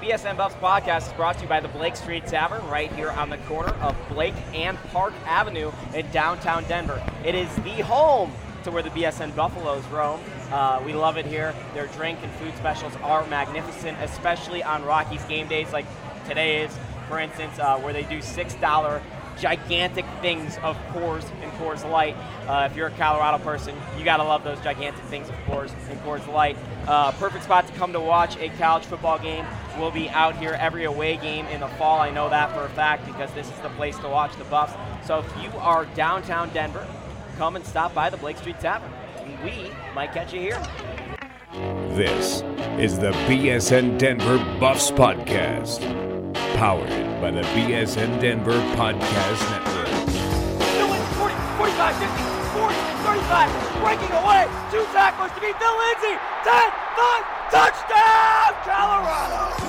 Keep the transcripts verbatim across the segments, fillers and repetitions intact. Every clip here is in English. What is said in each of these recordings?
B S N Buffs podcast is brought to you by the Blake Street Tavern right here on the corner of Blake and Park Avenue in downtown Denver. It is the home to where the B S N Buffaloes roam. Uh, we love it here. Their drink and food specials are magnificent, especially on Rockies game days like today is, for instance, uh, where they do six dollar gigantic things of Coors and Coors Light. Uh, if you're a Colorado person, you got to love those gigantic things of Coors and Coors Light. Uh, perfect spot to come to watch a college football game. We'll be out here every away game in the fall. I know that for a fact because this is the place to watch the Buffs. So if you are downtown Denver, come and stop by the Blake Street Tavern. And we might catch you here. This is the B S N Denver Buffs Podcast, powered by the B S N Denver Podcast Network. forty, forty-five, fifty, forty, thirty-five, breaking away, two tacklers to beat Phil Lindsay, ten, five, touchdown, Colorado!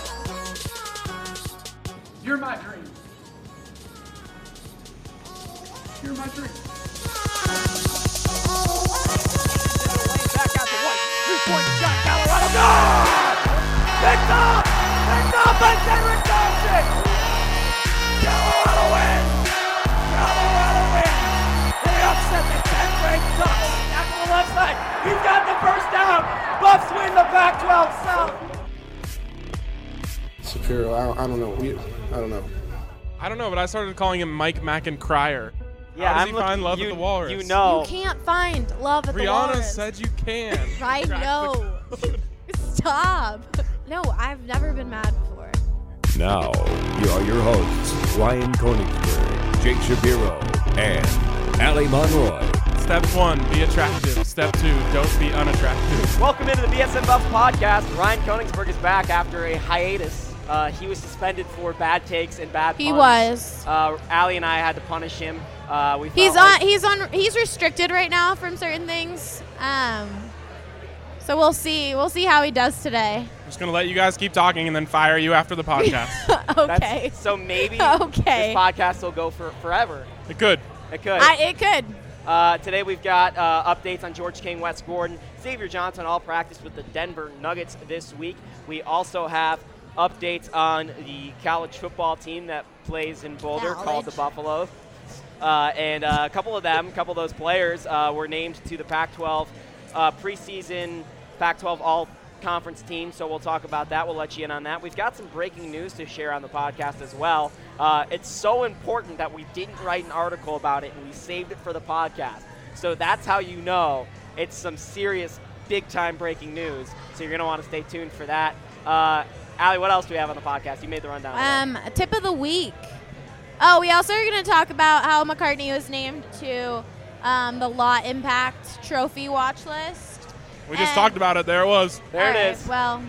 You're my dream. You're my dream. Back out to White, three-point shot, Colorado, good! Picked up! Picked up by Derek Johnson! Colorado wins! Colorado wins! They upset the tenth-ranked Ducks. Tackle the left side. He's got the first down. Buffs win the Pac twelve South. Shapiro, I don't, I don't know. We, I don't know. I don't know, but I started calling him Mike Mackin-Crier. Yeah, How does I'm he looking, find love you, at the Walrus? You know. You can't find love at the Brianna Walrus. said you can. I know. Stop. No, I've never been mad before. Now, here are your hosts, Ryan Koenigsberg, Jake Shapiro, and Allie Monroy. Step one, be attractive. Step two, don't be unattractive. Welcome into the B S N Buffs podcast. Ryan Koenigsberg is back after a hiatus. Uh, he was suspended for bad takes and bad puns. He was. Uh, Allie and I had to punish him. Uh, we He's felt on. like- He's on. He's restricted right now from certain things. Um. So we'll see. We'll see how he does today. I'm just going to let you guys keep talking and then fire you after the podcast. That's- Okay. So maybe Okay. this podcast will go for forever. It could. It could. I, it could. Uh, today we've got uh, updates on George King, Wes Gordon, Xavier Johnson all practiced with the Denver Nuggets this week. We also have updates on the college football team that plays in Boulder College. called the Buffalo. Uh, and uh, a couple of them, a couple of those players uh, were named to the Pac twelve uh, preseason Pac twelve all-conference team, so we'll talk about that. We'll let you in on that. We've got some breaking news to share on the podcast as well. Uh, it's so important that we didn't write an article about it, and we saved it for the podcast. So that's how you know it's some serious, big-time breaking news. So you're going to want to stay tuned for that. Uh, Allie, what else do we have on the podcast? You made the rundown. Um. Tip of the week. Oh, we also are going to talk about how McCartney was named to um, the Law Impact Trophy watch list. We just And- talked about it. There it was. there All it right, is. Well.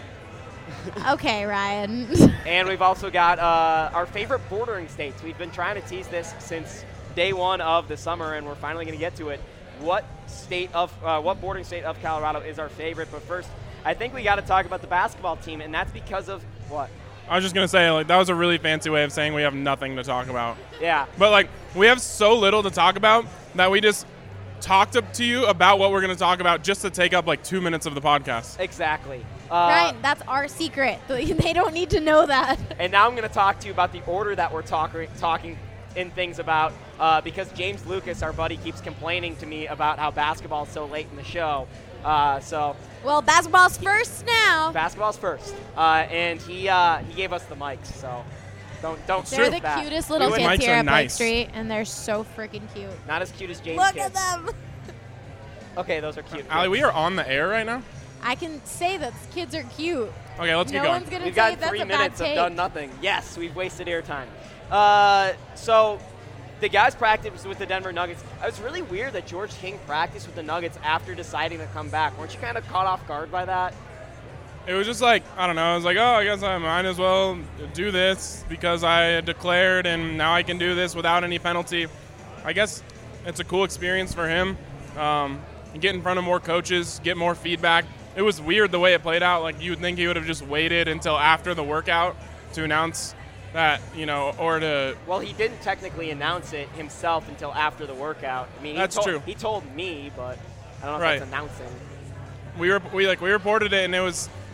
Okay, Ryan. And we've also got uh, our favorite bordering states. We've been trying to tease this since day one of the summer, and we're finally going to get to it. What state of uh, what bordering state of Colorado is our favorite? But first, I think we got to talk about the basketball team, and that's because of what? I was just going to say, like, that was a really fancy way of saying we have nothing to talk about. Yeah. But, like, we have so little to talk about that we just talked up to you about what we're going to talk about just to take up, like, two minutes of the podcast. Exactly. Uh, Ryan, that's our secret. They don't need to know that. And now I'm going to talk to you about the order that we're talk- talking in things about uh, because James Lucas, our buddy, keeps complaining to me about how basketball is so late in the show. Uh, so Well, basketball's first now. basketball's first, uh, and he uh, he gave us the mics. So don't don't They're sniff the that. cutest little Those kids mics here are at Blake nice. Street, and they're so freaking cute. Not as cute as James. Look kids. at them. Okay, those are cute. Allie, we are on the air right now? I can say that kids are cute. Okay, let's no get going. one's gonna We've say got that's three a bad minutes of take. done nothing. Yes, we've wasted airtime. Uh, so the guys practiced with the Denver Nuggets. It was really weird that George King practiced with the Nuggets after deciding to come back. Weren't you kind of caught off guard by that? It was just like, I don't know, I was like, oh, I guess I might as well do this because I declared and now I can do this without any penalty. I guess it's a cool experience for him. Um, and get in front of more coaches, get more feedback. It was weird the way it played out. Like, you would think he would have just waited until after the workout to announce that, you know, or to... Well, he didn't technically announce it himself until after the workout. I mean, he That's told, true. He told me, but I don't know Right. if that's announcing. We were we like we reported it, and it was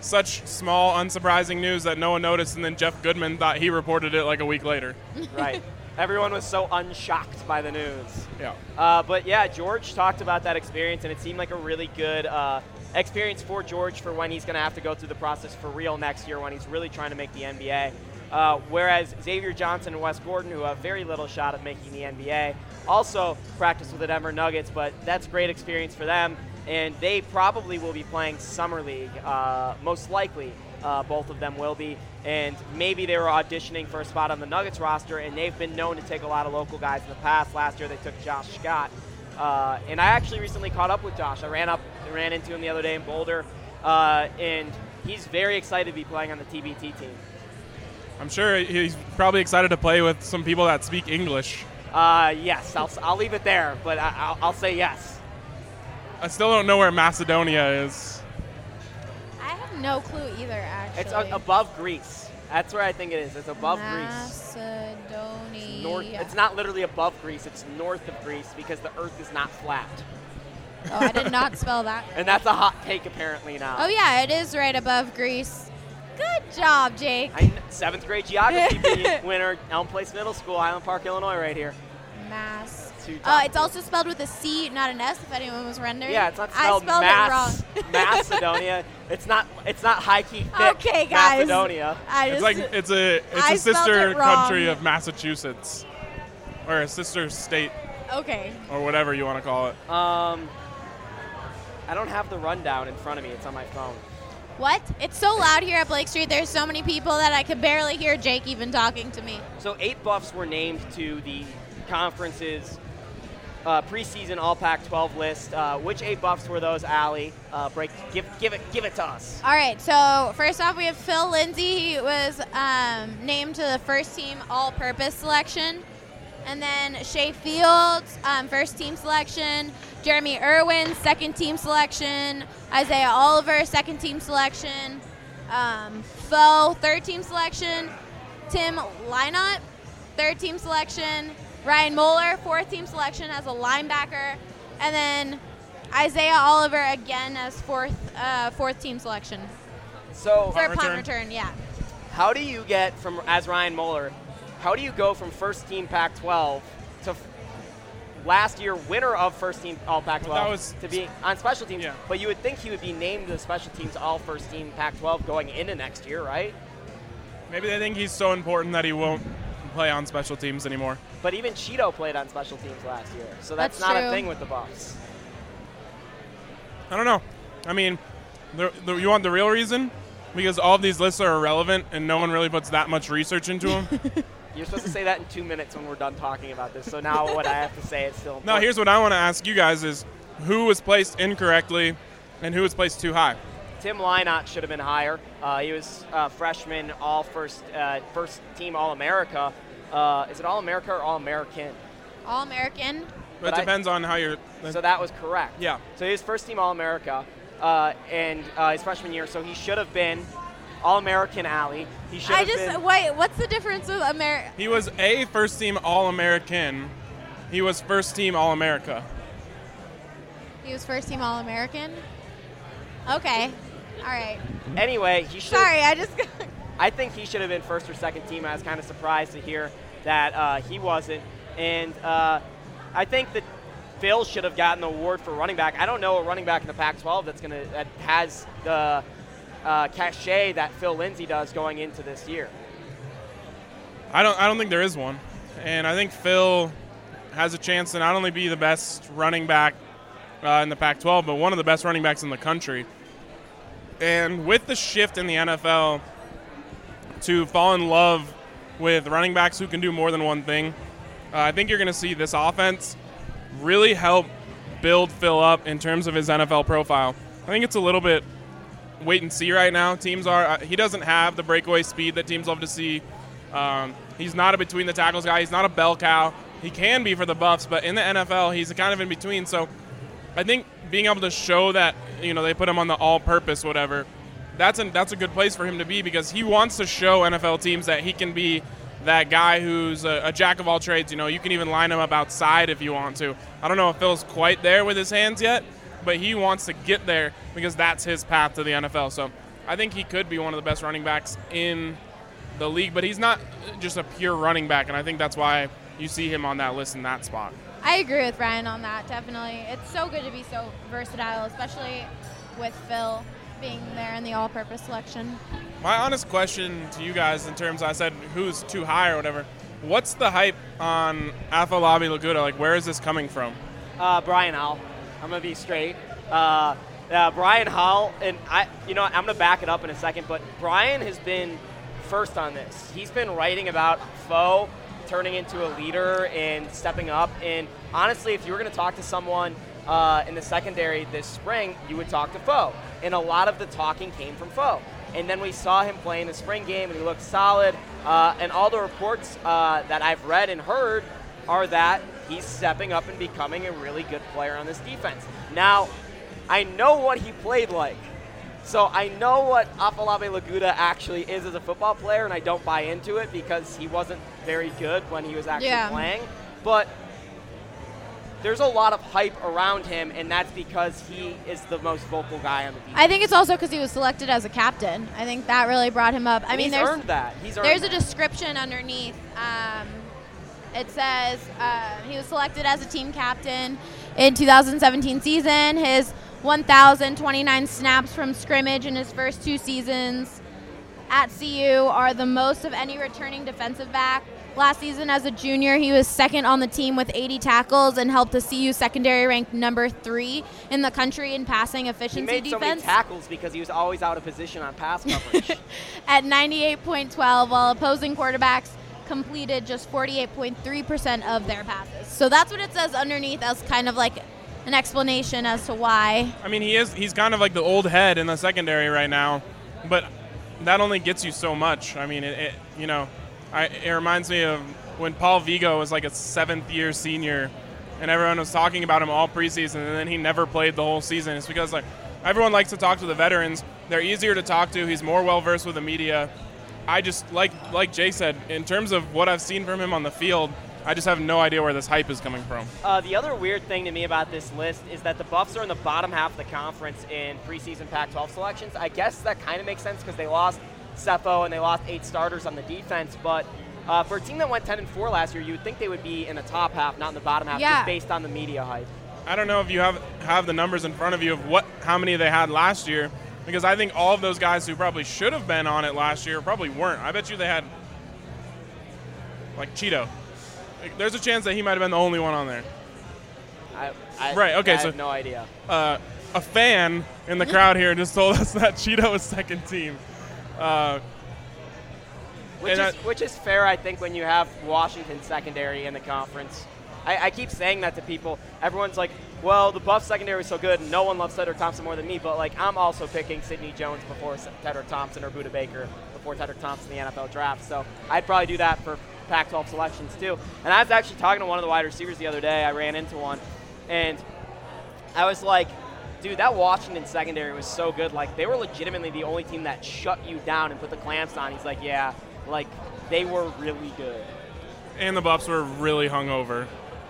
such small, unsurprising news that no one noticed, and then Jeff Goodman thought he reported it like a week later. Right. Everyone was so unshocked by the news. Yeah. Uh, but yeah, George talked about that experience, and it seemed like a really good uh, experience for George for when he's going to have to go through the process for real next year when he's really trying to make the N B A. Uh, whereas Xavier Johnson and Wes Gordon, who have very little shot of making the N B A, also practice with the Denver Nuggets, but that's great experience for them, and they probably will be playing Summer League, uh, most likely. Uh, both of them will be, and maybe they were auditioning for a spot on the Nuggets roster, and they've been known to take a lot of local guys in the past. Last year they took Josh Scott, uh, and I actually recently caught up with Josh. I ran up, ran into him the other day in Boulder, uh, and he's very excited to be playing on the T B T team. I'm sure he's probably excited to play with some people that speak English. Uh, yes, I'll, I'll leave it there, but I, I'll, I'll say yes. I still don't know where Macedonia is. I have no clue either, actually. It's a, above Greece. That's where I think it is. It's above Macedonia. Greece. It's, north, it's not literally above Greece. It's north of Greece because the earth is not flat. Oh, I did not spell that. And that's a hot take apparently now. Oh, yeah, it is right above Greece. Good job, Jake. I, seventh grade geography winner, Elm Place Middle School, Highland Park, Illinois, right here. Mass. Uh, it's also spelled with a C, not an S, if anyone was wondering. Yeah, it's not spelled, I spelled Mass, it wrong. Macedonia. It's not. It's not high key thick. Okay, guys. Macedonia. I It's just, like it's a it's I a spelled sister it wrong. country of Massachusetts, or a sister state, Okay. or whatever you want to call it. Um, I don't have the rundown in front of me. It's on my phone. What? It's so loud here at Blake Street. There's so many people that I could barely hear Jake even talking to me. So eight Buffs were named to the conference's uh, preseason All Pac twelve list. Uh, which eight Buffs were those, Allie? Uh, break. Give, give it. Give it to us. All right, so first off, we have Phil Lindsay. He was um, named to the first team all-purpose selection. And then Shea Fields, um, first team selection. Jeremy Irwin, second team selection. Isaiah Oliver, second team selection. Um, Foe, third team selection. Tim Lynott, third team selection. Ryan Moeller, fourth team selection as a linebacker. And then Isaiah Oliver again as fourth uh, fourth team selection. So For Punt punt return. return, yeah. how do you get from as Ryan Moeller? How do you go from first team Pac twelve to f- last year winner of first team All Pac twelve Well, that was- to be on special teams? Yeah. But you would think he would be named the special teams All First Team Pac twelve going into next year, right? Maybe they think he's so important that he won't play on special teams anymore. But even Cheeto played on special teams last year, so that's, That's not true. a thing with the Buffs. I don't know. I mean, the, the, you want the real reason? Because all of these lists are irrelevant and no one really puts that much research into them. You're supposed to say that in two minutes when we're done talking about this. So now what I have to say is still important. No, here's what I want to ask you guys is who was placed incorrectly and who was placed too high? Tim Lynott should have been higher. Uh, he was uh, freshman, all first uh, first team All America. Uh, is it All America or All American? All-American. But it But I- depends on how you're. So that was correct. Yeah. So he was first team All America, uh, and uh, his freshman year. So he should have been All American Alley. He should I have just been. wait. What's the difference with America? He was a first team All American. He was first team All America. He was first team All-American. Okay. All right. Anyway, he should. Sorry, I just. I think he should have been first or second team. I was kind of surprised to hear that uh, he wasn't, and uh, I think that Phil should have gotten the award for running back. I don't know a running back in the Pac twelve that's gonna that has the uh, cachet that Phil Lindsay does going into this year. I don't. I don't think there is one, and I think Phil has a chance to not only be the best running back uh, in the Pac twelve, but one of the best running backs in the country. And with the shift in the N F L to fall in love with running backs who can do more than one thing, uh, I think you're going to see this offense really help build Phil up in terms of his N F L profile. I think it's a little bit wait and see right now. Teams are uh, he doesn't have the breakaway speed that teams love to see. Um, he's not a between the tackles guy. He's not a bell cow. He can be for the Buffs, but in the N F L, he's kind of in between. So I think being able to show that, you know, they put him on the all-purpose whatever, that's a, that's a good place for him to be because he wants to show N F L teams that he can be that guy who's a, a jack of all trades. You know, you can even line him up outside if you want to. I don't know if Phil's quite there with his hands yet, but he wants to get there because that's his path to the N F L. So I think he could be one of the best running backs in the league, but he's not just a pure running back, and I think that's why you see him on that list in that spot. I agree with Ryan on that, definitely. It's so good to be so versatile, especially with Phil being there in the all-purpose selection. My honest question to you guys, in terms, I said who's too high or whatever, what's the hype on Afolabi Laguda? Like, where is this coming from? Uh, Brian Howell. I'm going to be straight. Uh, uh, Brian Howell, and I, you know, I'm going to back it up in a second, but Brian has been first on this. He's been writing about Foe turning into a leader and stepping up. And honestly, if you were going to talk to someone uh, in the secondary this spring, you would talk to Foe. And a lot of the talking came from Foe. And then we saw him play in the spring game, and he looked solid. Uh, and all the reports uh, that I've read and heard are that he's stepping up and becoming a really good player on this defense. Now, I know what he played like. So I know what Afolabi Laguda actually is as a football player, and I don't buy into it because he wasn't very good when he was actually Yeah. playing. But there's a lot of hype around him, and that's because he is the most vocal guy on the defense. I think it's also because he was selected as a captain. I think that really brought him up. I And mean, he's there's earned that. He's earned there's a that. description underneath. Um, it says uh, he was selected as a team captain in two thousand seventeen season. His one thousand twenty-nine snaps from scrimmage in his first two seasons at C U are the most of any returning defensive back. Last season as a junior, he was second on the team with eighty tackles and helped the C U secondary ranked number three in the country in passing He efficiency made so many defense tackles because he was always out of position on pass coverage. at ninety-eight point one two, while opposing quarterbacks completed just forty-eight point three percent of their passes. So that's what it says underneath as kind of like an explanation as to why. I mean, he is he's kind of like the old head in the secondary right now, but that only gets you so much. I mean, it, it you know, I, it reminds me of when Paul Vigo was like a seventh-year senior, and everyone was talking about him all preseason, and then he never played the whole season. It's because like everyone likes to talk to the veterans. They're easier to talk to. He's more well-versed with the media. I just, like like Jay said, in terms of what I've seen from him on the field, I just have no idea where this hype is coming from. Uh, the other weird thing to me about this list is that the Buffs are in the bottom half of the conference in preseason Pac twelve selections. I guess that kind of makes sense because they lost Cepho and they lost eight starters on the defense. But uh, for a team that went ten and four last year, you would think they would be in the top half, not in the bottom half, Yeah. just based on the media hype. I don't know if you have have the numbers in front of you of what how many they had last year, because I think all of those guys who probably should have been on it last year probably weren't. I bet you they had, like, Cheeto. Like, there's a chance that he might have been the only one on there. I, I, Right, okay, I so- have no idea. Uh, a fan in the crowd here just told us that Cheeto was second team. Uh, Which is, and which is fair, I think, when you have Washington secondary in the conference. I, I keep saying that to people. Everyone's like, well, the Buff secondary is so good, and no one loves Tedrick Thompson more than me, but like I'm also picking Sidney Jones before Tedrick Thompson or Buda Baker before Tedrick Thompson in the N F L draft. So I'd probably do that for Pac twelve selections too. And I was actually talking to one of the wide receivers the other day. I ran into one, and I was like, dude, that Washington secondary was so good. Like, they were legitimately the only team that shut you down and put the clamps on. He's like, yeah, like, they were really good. and the Buffs were really hungover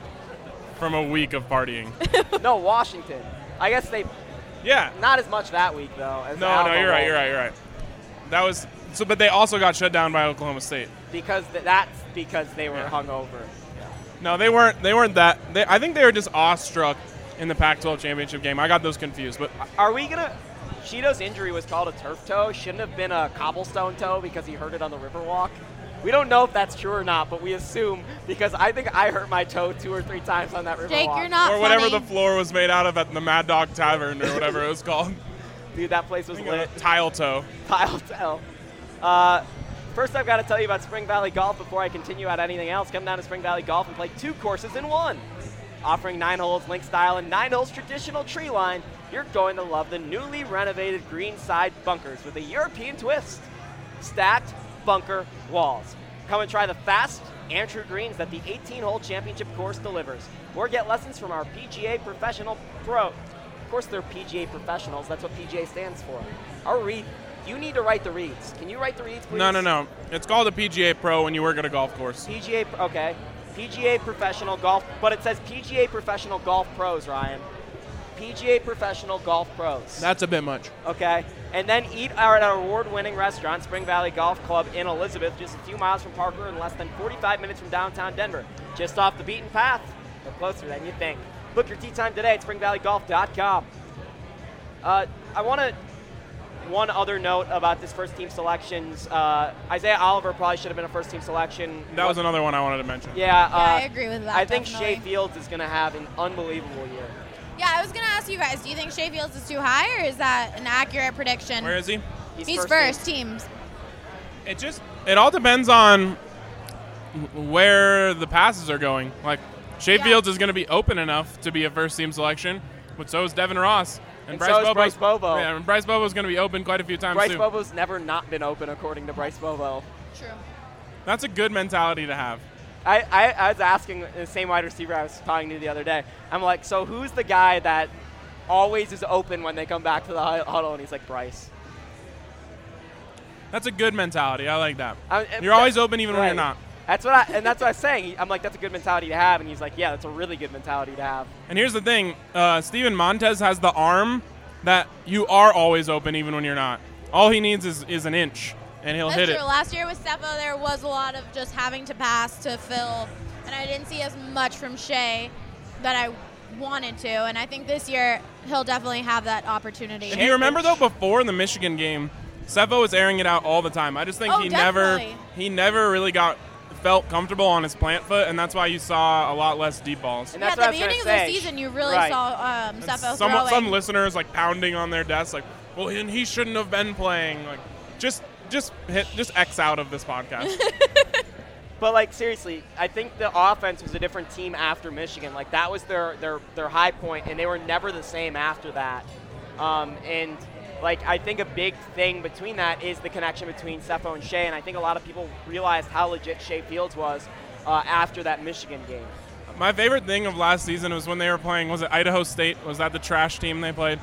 from a week of partying. No, Washington. I guess they, Yeah. not as much that week, though. As the No, no, Alamo you're right, Bowl. you're right, you're right. That was so, but they also got shut down by Oklahoma State. Because th- that's because they were Yeah. hungover. No, they weren't. They weren't that. They, I think they were just awestruck in the Pac twelve championship game. I got those confused, but Are we going to – Cheeto's injury was called a turf toe. Shouldn't have been a cobblestone toe because he hurt it on the Riverwalk. We don't know if that's true or not, but we assume because I think I hurt my toe two or three times on that Riverwalk. Jake, you're not or whatever funny. the floor was made out of at the Mad Dog Tavern or whatever it was called. Dude, that place was lit. Tile toe. Tile toe. Uh, first, I've got to tell you about Spring Valley Golf before I continue at anything else. Come down to Spring Valley Golf and play two courses in one. Offering nine holes link style and nine holes traditional tree line, you're going to love the newly renovated greenside bunkers with a European twist. Stacked bunker walls. Come and try the fast and true greens that the eighteen-hole championship course delivers. Or get lessons from our P G A Professional Pro. Of course, they're P G A professionals. That's what P G A stands for. Our read. You need to write the reads. Can you write the reads, please? No, no, no. It's called a P G A Pro when you work at a golf course. P G A, okay. P G A Professional Golf, but it says P G A Professional Golf Pros, Ryan. P G A Professional Golf Pros. That's a bit much. Okay. And then eat at our award-winning restaurant, Spring Valley Golf Club in Elizabeth, just a few miles from Parker and less than forty-five minutes from downtown Denver. Just off the beaten path, but closer than you think. Book your tee time today at spring valley golf dot com. Uh, I want to, one other note about this first team selections. Uh, Isaiah Oliver probably should have been a first team selection. That was another one I wanted to mention. Yeah, Yeah, uh, I agree with that. I think definitely. Shea Fields is going to have an unbelievable year. Yeah, I was gonna ask you guys. Do you think Shea Fields is too high, or is that an accurate prediction? Where is he? He's, He's first, first, team. teams. It just it all depends on where the passes are going. Like Shea Yeah. Fields is going to be open enough to be a first team selection, but so is Devin Ross And Bryce so is Bobo's- Bryce Bobo. Yeah, and Bryce Bobo's going to be open quite a few times Bryce too. Bobo's never not been open, according to Bryce Bobo. True. That's a good mentality to have. I, I, I was asking the same wide receiver I was talking to the other day. I'm like, so who's the guy that always is open when they come back to the huddle? And he's like, Bryce. That's a good mentality. I like that. I- You're always open even when Right. you're not. That's what I, and that's what I was saying. I'm like, that's a good mentality to have. And he's like, yeah, that's a really good mentality to have. And here's the thing, uh, Steven Montez has the arm that you are always open even when you're not. All he needs is, is an inch, and he'll That's hit true. it. Last year with Stefo, there was a lot of just having to pass to Phil, and I didn't see as much from Shea that I wanted to. And I think this year he'll definitely have that opportunity. And do you remember, though, before the Michigan game, Stefo was airing it out all the time. I just think Oh, he definitely. never he never really got felt comfortable on his plant foot, and that's why you saw a lot less deep balls. And Yeah, that's at what the I was beginning gonna of the say. season, you really Right. saw um, Stefo Some, throwing. some listeners like pounding on their desks, like, well, he, he shouldn't have been playing. Like, just just hit just X out of this podcast. But like seriously, I think the offense was a different team after Michigan. Like that was their their their high point, and they were never the same after that. Um, and like I think a big thing between that is the connection between Stefo and Shea, and I think a lot of people realized how legit Shea Fields was uh, after that Michigan game. My favorite thing of last season was when they were playing, was it Idaho State? Was that the trash team they played?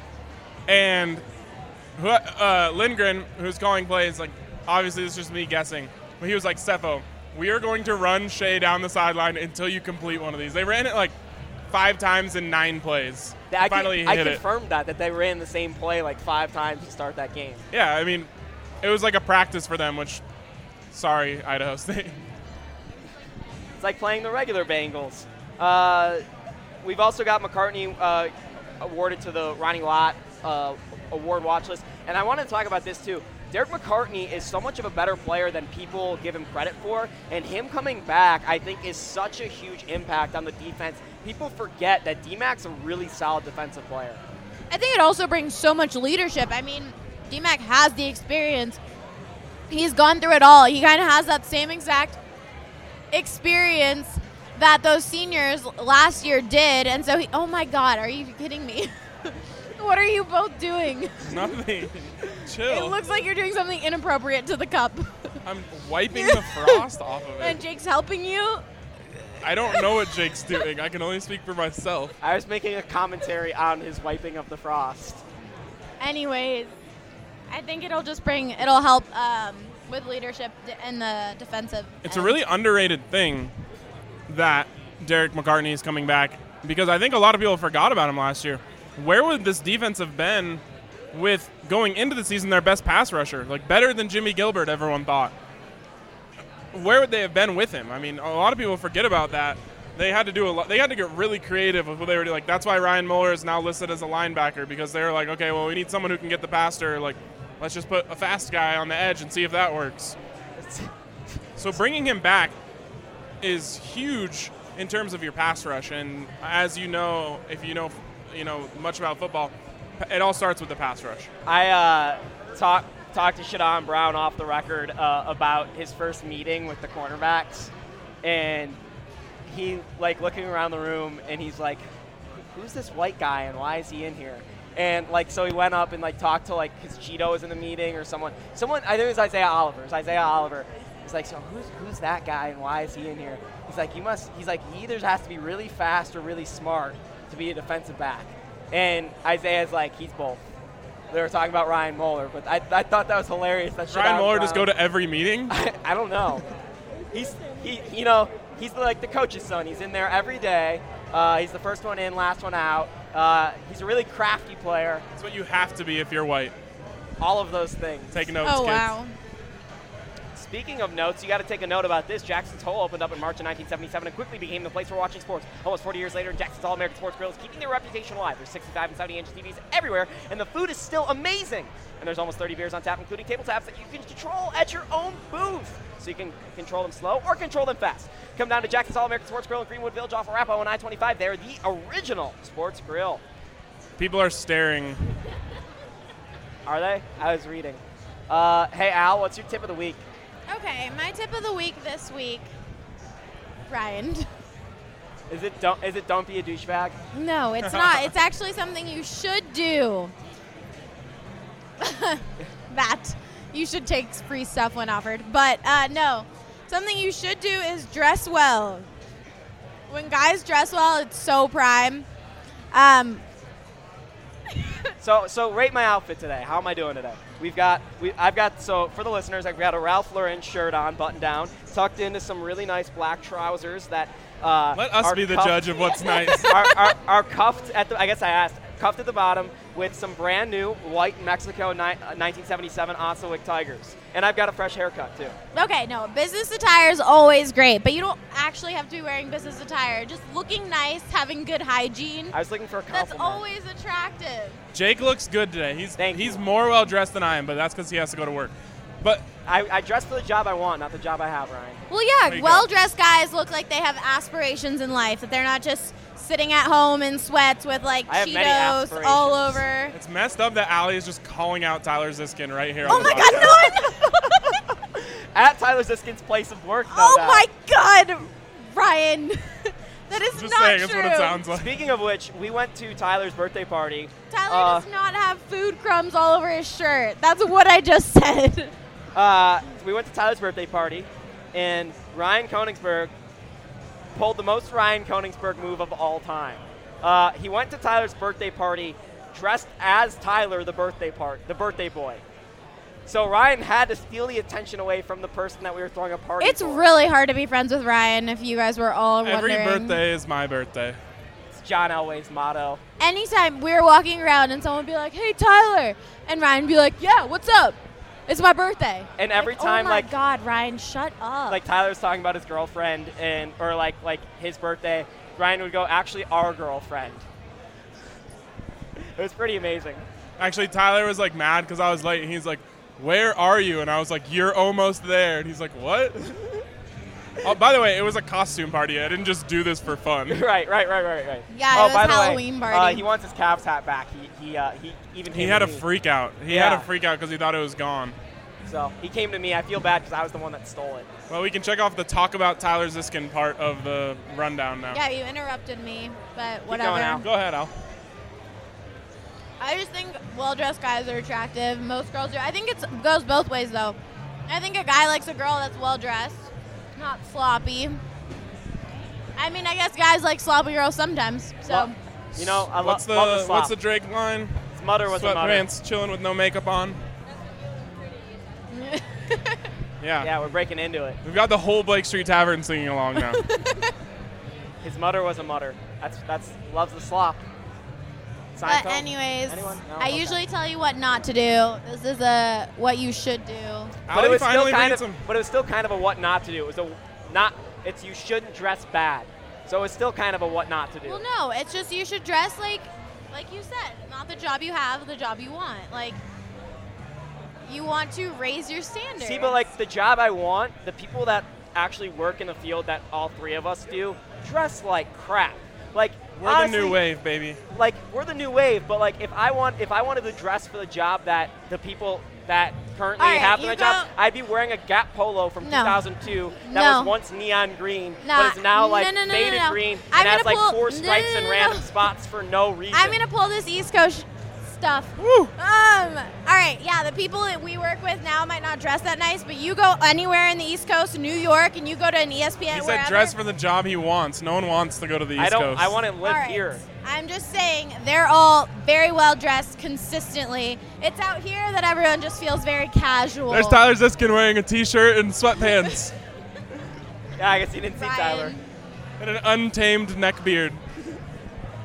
And who- uh, Lindgren, who's calling plays, like, obviously it's just me guessing, but he was like, Stefo, we are going to run Shea down the sideline until you complete one of these. They ran it like five times in nine plays. I, Finally con- I hit it. confirmed that, that they ran the same play like five times to start that game. Yeah, I mean, it was like a practice for them, which, sorry, Idaho State. It's like playing the regular Bengals. Uh, we've also got McCartney uh, awarded to the Ronnie Lott uh, award watch list. And I want to talk about this too. Derek McCartney is so much of a better player than people give him credit for. And him coming back, I think, is such a huge impact on the defense. People forget that D-Mac's a really solid defensive player. I think it also brings so much leadership. I mean, D-Mac has the experience. He's gone through it all. He kind of has that same exact experience that those seniors last year did. And so he, oh my God, are you kidding me? What are you both doing? Nothing. It Chill. looks like you're doing something inappropriate to the cup. I'm wiping the frost off of And it. Jake's helping you. I don't know what Jake's doing. I can only speak for myself. I was making a commentary on his wiping of the frost. Anyways, I think it'll just bring, it'll help um, with leadership in the defensive. It's a end. really underrated thing that Derek McCartney is coming back, because I think a lot of people forgot about him last year. Where would this defense have been with going into the season their best pass rusher, like better than Jimmy Gilbert, everyone thought? Where would they have been with him? I mean, a lot of people forget about that. They had to do a lot. They had to get really creative with what they were doing. Like, that's why Ryan Mueller is now listed as a linebacker, because they were like, okay, well, we need someone who can get the passer. Like, let's just put a fast guy on the edge and see if that works. So bringing him back is huge in terms of your pass rush. And as you know, if you know, you know much about football, it all starts with the pass rush. I uh, talked talked to Shadon Brown off the record uh, about his first meeting with the cornerbacks, and he like looking around the room, and he's like, "Who's this white guy, and why is he in here?" And like, so he went up and like talked to like his Cheeto was in the meeting or someone. Someone I think it was Isaiah Oliver. It was Isaiah Oliver. He's like, "So who's who's that guy, and why is he in here?" He's like, "You must." He's like, "He either has to be really fast or really smart to be a defensive back." And Isaiah's like, "He's both." They were talking about Ryan Mueller, but I, I thought that was hilarious. That Ryan Shadon Mueller just go Brown- to every meeting. I, I don't know. He's he you know he's like the coach's son. He's in there every day. Uh, he's the first one in, last one out. Uh, he's a really crafty player. That's what you have to be if you're white. All of those things. Take notes, Oh, kids. wow. Speaking of notes, you got to take a note about this. Jackson's Hole opened up in March of nineteen seventy-seven and quickly became the place for watching sports. Almost forty years later, Jackson's All-American Sports Grill is keeping their reputation alive. There's sixty-five and seventy inch T Vs everywhere, and the food is still amazing. And there's almost thirty beers on tap, including table taps that you can control at your own booth. So you can control them slow or control them fast. Come down to Jackson's All-American Sports Grill in Greenwood Village off Arapahoe on I twenty-five. They're the original sports grill. People are staring. Are they? I was reading. Uh, hey, Al, what's your tip of the week? Okay, my tip of the week this week, Ryan. Is it don't, is it don't be a douchebag? No, it's not. It's actually something you should do. That. You should take free stuff when offered. But uh, no, something you should do is dress well. When guys dress well, it's so prime. Um, So, so rate my outfit today. How am I doing today? We've got, we, I've got, so for the listeners, I've got a Ralph Lauren shirt on, buttoned down, tucked into some really nice black trousers that uh, Let us are be the cuffed- judge of what's nice. are, are, are cuffed at the, I guess I asked, cuffed at the bottom with some brand new white Mexico ni- uh, nineteen seventy-seven Ossawick Tigers. And I've got a fresh haircut too. okay, no, business attire is always great, but you don't actually have to be wearing business attire. Just looking nice, having good hygiene. I was looking for a That's compliment. always attractive. Jake looks good today. He's Thank he's you. more well dressed than I am, but that's because he has to go to work. But I, I dress for the job I want, not the job I have, Ryan. Well, There yeah, you go. well-dressed guys look like they have aspirations in life, that they're not just sitting at home in sweats with, like, I have many Cheetos all aspirations. over. it's messed up that Allie is just calling out Tyler Ziskin right here. Oh, on the my podcast. God, no! At Tyler Ziskin's place of work, no oh, doubt. my God, Ryan. That is Just not saying, true. that's what it sounds like. Speaking of which, we went to Tyler's birthday party. Tyler Uh, does not have food crumbs all over his shirt. That's what I just said. Uh, we went to Tyler's birthday party, and Ryan Koenigsberg pulled the most Ryan Koenigsberg move of all time. Uh, he went to Tyler's birthday party dressed as Tyler, the birthday part, the birthday boy. So Ryan had to steal the attention away from the person that we were throwing a party It's for. really hard to be friends with Ryan, if you guys were all Every wondering. birthday is my birthday. It's John Elway's motto. Anytime we were walking around and someone would be like, hey, Tyler, and Ryan would be like, yeah, what's up? It's my birthday. And every Like, time, oh my like- God, Ryan, shut up. Like Tyler's talking about his girlfriend, and or like like his birthday, Ryan would go, actually our girlfriend. It was pretty amazing. Actually, Tyler was like mad because I was late, and he's like, "Where are you?" And I was like, "You're almost there." And he's like, "What?" Oh, by the way, it was a costume party. I didn't just do this for fun. Right, right, right, right, right. Yeah, it oh, was by the Halloween way, party. Uh, he wants his Cavs hat back. He he uh, he even He came had to a me. freak out. He Yeah. had a freak out because he thought it was gone. So he came to me. I feel bad because I was the one that stole it. Well, we can check off the talk about Tyler Ziskin part of the rundown now. yeah, you interrupted me, but going, whatever. Al. Go ahead, Al. I just think well-dressed guys are attractive. Most girls do. I think it goes both ways, though. I think a guy likes a girl that's well-dressed, not sloppy. I mean, I guess guys like sloppy girls sometimes. So, Well, you know, I lo- What's the, love the slop. what's the Drake line? His mother was a mother. Sweatpants, chilling with no makeup on. Yeah. Yeah, we're breaking into it. We've got the whole Blake Street Tavern singing along now. His mother was a mutter. That's that's loves the slop. but Seinfeld? anyways, Anyone? No? I Okay. usually tell you what not to do. This is a what you should do. But Ali it was still finally kind brings of, some. but it was still kind of a what not to do. It was a not. It's you shouldn't dress bad. So it's still kind of a what not to do. Well, no, it's just you should dress like, like you said, not the job you have, the job you want. Like, you want to raise your standards. See, but like the job I want, the people that actually work in the field that all three of us do, dress like crap. Like We're honestly, the new wave, baby. Like we're the new wave, but like if I want, if I wanted to dress for the job that the people that currently All right, have you the job, go- I'd be wearing a Gap polo from No. two thousand two that No. was once neon green, Nah, but is now like no, no, no, faded no, no. green I'm and has gonna like pull- four no, no, stripes no, in no, random no. spots for no reason. I'm gonna pull this East Coast stuff. Woo! Um. All right. Yeah, the people that we work with now might not dress that nice, but you go anywhere in the East Coast, New York, and you go to an E S P N. He said wherever, dress for the job he wants. No one wants to go to the East I don't. Coast. I want to live All right. here. I'm just saying they're all very well dressed consistently. It's out here that everyone just feels very casual. There's Tyler Ziskin wearing a T-shirt and sweatpants Yeah, I guess you didn't see Ryan. Tyler. and an untamed neck beard.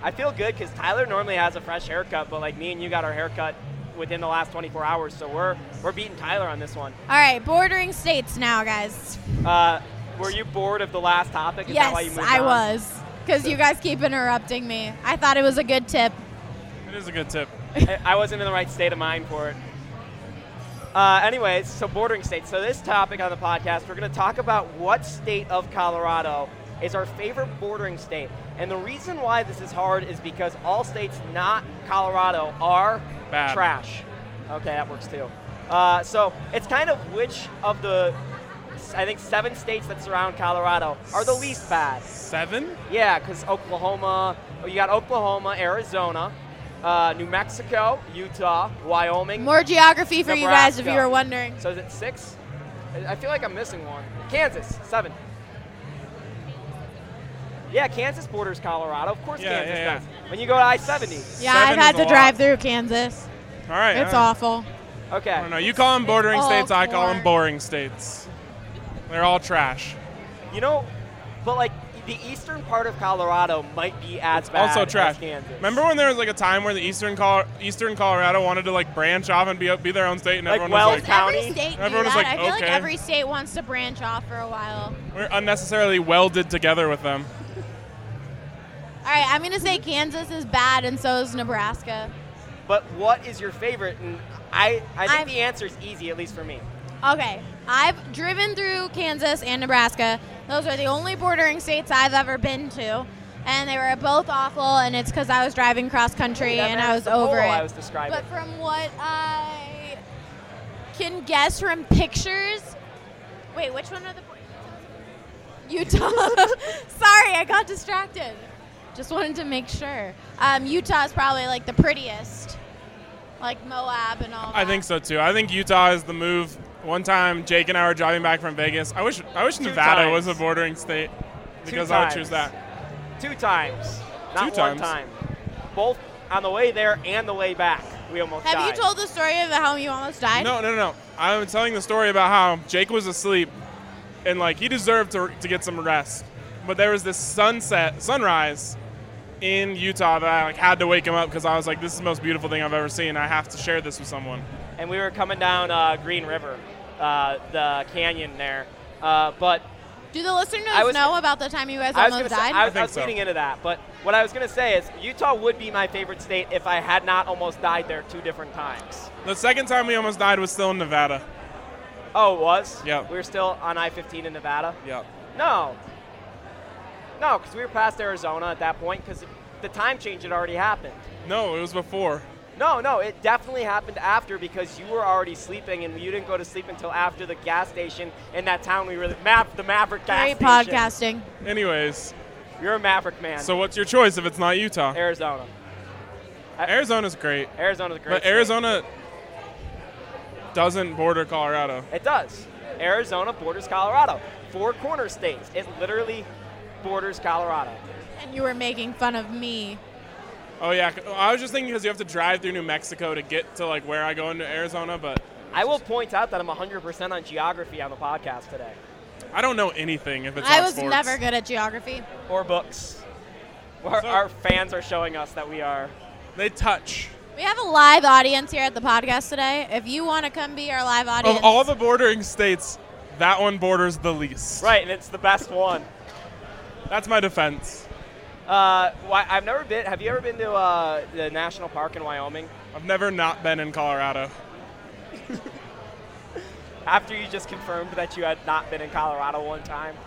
I feel good because Tyler normally has a fresh haircut, but like me and you got our haircut within the last twenty-four hours, so we're we're beating Tyler on this one. All right, bordering states now, guys. Uh, were you bored of the last topic? Is that why you Yes, moved I on? was, because you guys keep interrupting me. I thought it was a good tip. It is a good tip. I, I wasn't in the right state of mind for it. Uh, anyways, so bordering states. So this topic on the podcast, we're going to talk about what state of Colorado is our favorite bordering state. And the reason why this is hard is because all states not Colorado are Bad. trash. Okay, that works too. Uh, so it's kind of which of the, I think, seven states that surround Colorado are the least bad. Seven? Yeah, because Oklahoma, oh, you got Oklahoma, Arizona, uh, New Mexico, Utah, Wyoming. More geography for you guys if you Nebraska. were wondering. So is it six? I- I feel like I'm missing one. Kansas, seven. Yeah, Kansas borders Colorado. Of course Yeah, Kansas yeah, does. When you go to I seventy. Yeah, Seven I've had is a to drive lot. through Kansas. All right. It's all right. awful. Okay. I don't know. You call them bordering all states. I call them corn. boring states. They're all trash. You know, but like the eastern part of Colorado might be as bad Also as trash. Kansas. Remember when there was like a time where the eastern Col- eastern Colorado wanted to like branch off and be be their own state, and Like everyone Wells was like, County? Every state do Everyone was that. like, I feel like okay. every state wants to branch off for a while. we're unnecessarily welded together with them. All right, I'm going to say Kansas is bad, and so is Nebraska. But what is your favorite? And I, I think I'm- the answer is easy, at least for me. Okay, I've driven through Kansas and Nebraska. Those are the only bordering states I've ever been to, and they were both awful, and it's because I was driving cross country That and I matches was the over pole it. I was describing. But from what I can guess from pictures, wait, which one are the Utah? Sorry, I got distracted. Just wanted to make sure. Um, Utah is probably like the prettiest, like Moab and all that. I think so too. I think Utah is the move. One time, Jake and I were driving back from Vegas. I wish I wish Two Nevada times. was a bordering state Two because I would choose times. that. Two times. Not Two one times. time. Both on the way there and the way back. We almost Have died. you told the story of how you almost died? No, no, no, no. I'm telling the story about how Jake was asleep, and like he deserved to to get some rest, but there was this sunset, sunrise, in Utah that I like had to wake him up because I was like, "This is the most beautiful thing I've ever seen. I have to share this with someone." And we were coming down uh, Green River, uh, the canyon there. Uh, but Do the listeners I was- know about the time you guys I was almost gonna say, died? I was, I think I was so. leading into that. But what I was going to say is Utah would be my favorite state if I had not almost died there two different times. The second time we almost died was still in Nevada. Oh, it was? Yeah. We were still on I fifteen in Nevada? Yeah. No. No, because we were past Arizona at that point because the time change had already happened. No, it was before. No, no, it definitely happened after because you were already sleeping and you didn't go to sleep until after the gas station in that town we were the, Ma- the Maverick gas Great station. podcasting. Anyways, You're a Maverick man. so what's your choice if it's not Utah? Arizona. Arizona's great, Arizona's a great but state. Arizona doesn't border Colorado. It does. Arizona borders Colorado. Four corner states. It literally borders Colorado. And you were making fun of me. Oh yeah, I was just thinking because you have to drive through New Mexico to get to like where I go into Arizona, but I will point out that I'm one hundred percent on geography on the podcast today. I don't know anything if it's I not was sports. never good at geography. Or books. Our, So- our fans are showing us that we are. They touch. We have a live audience here at the podcast today. If you want to come be our live audience. Of all the bordering states, that one borders the least. Right, and it's the best one. That's my defense. Uh, why, I've never been. Have you ever been to uh, the national park in Wyoming? I've never not been in Colorado. After you just confirmed that you had not been in Colorado one time,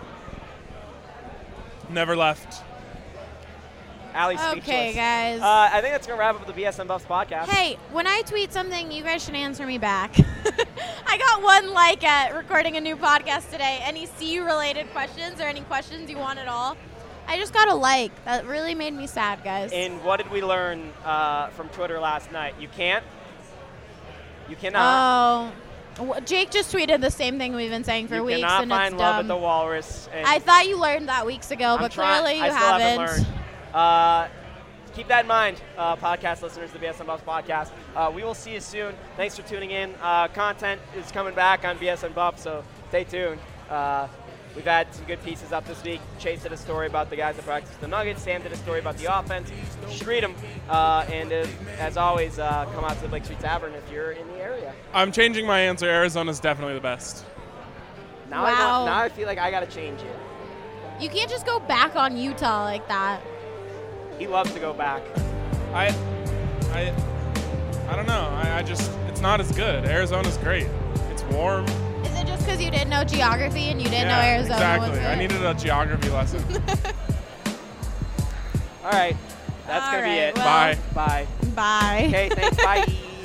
Never left. Allie's Okay, speechless. guys. Uh, I think that's gonna wrap up the B S N Buffs podcast. Hey, when I tweet something, you guys should answer me back. I got one like at recording a new podcast today. Any C U related questions or any questions you want at all? I just got a like. That really made me sad, guys. And what did we learn uh, from Twitter last night? You can't. You cannot. Oh, w- Jake just tweeted the same thing we've been saying for you weeks, cannot and find it's love dumb. at the Walrus. And I thought you learned that weeks ago, I'm but trying- clearly you I still haven't. learned. Uh, keep that in mind, uh, podcast listeners, the B S N Buffs podcast. Uh, we will see you soon. Thanks for tuning in. Uh, content is coming back on B S N Buffs, so stay tuned. Uh, We've had some good pieces up this week. Chase did a story about the guys that practice the Nuggets. Sam did a story about the offense. Street them. Uh, and uh, as always, uh, come out to the Blake Street Tavern if you're in the area. I'm changing my answer. Arizona's definitely the best. Now, Wow. I, want, now I feel like I got to change it. You can't just go back on Utah like that. He loves to go back. I, I, I don't know. I, I just, it's not as good. Arizona's great. It's warm. Is it just because you didn't know geography and you didn't yeah, know Arizona exactly. was good? I needed a geography lesson. All right. That's All going to be right, it. well- Bye. Bye. Bye. Okay, thanks. Bye.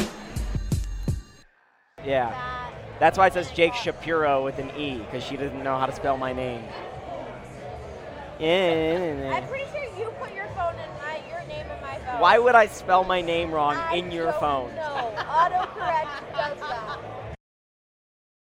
Yeah. That's why it says Jake Shapiro with an E, because she didn't know how to spell my name. Yeah. I'm pretty sure you put your phone in my your name in my phone. Why would I spell my name wrong I in your don't phone? know. Autocorrect does that.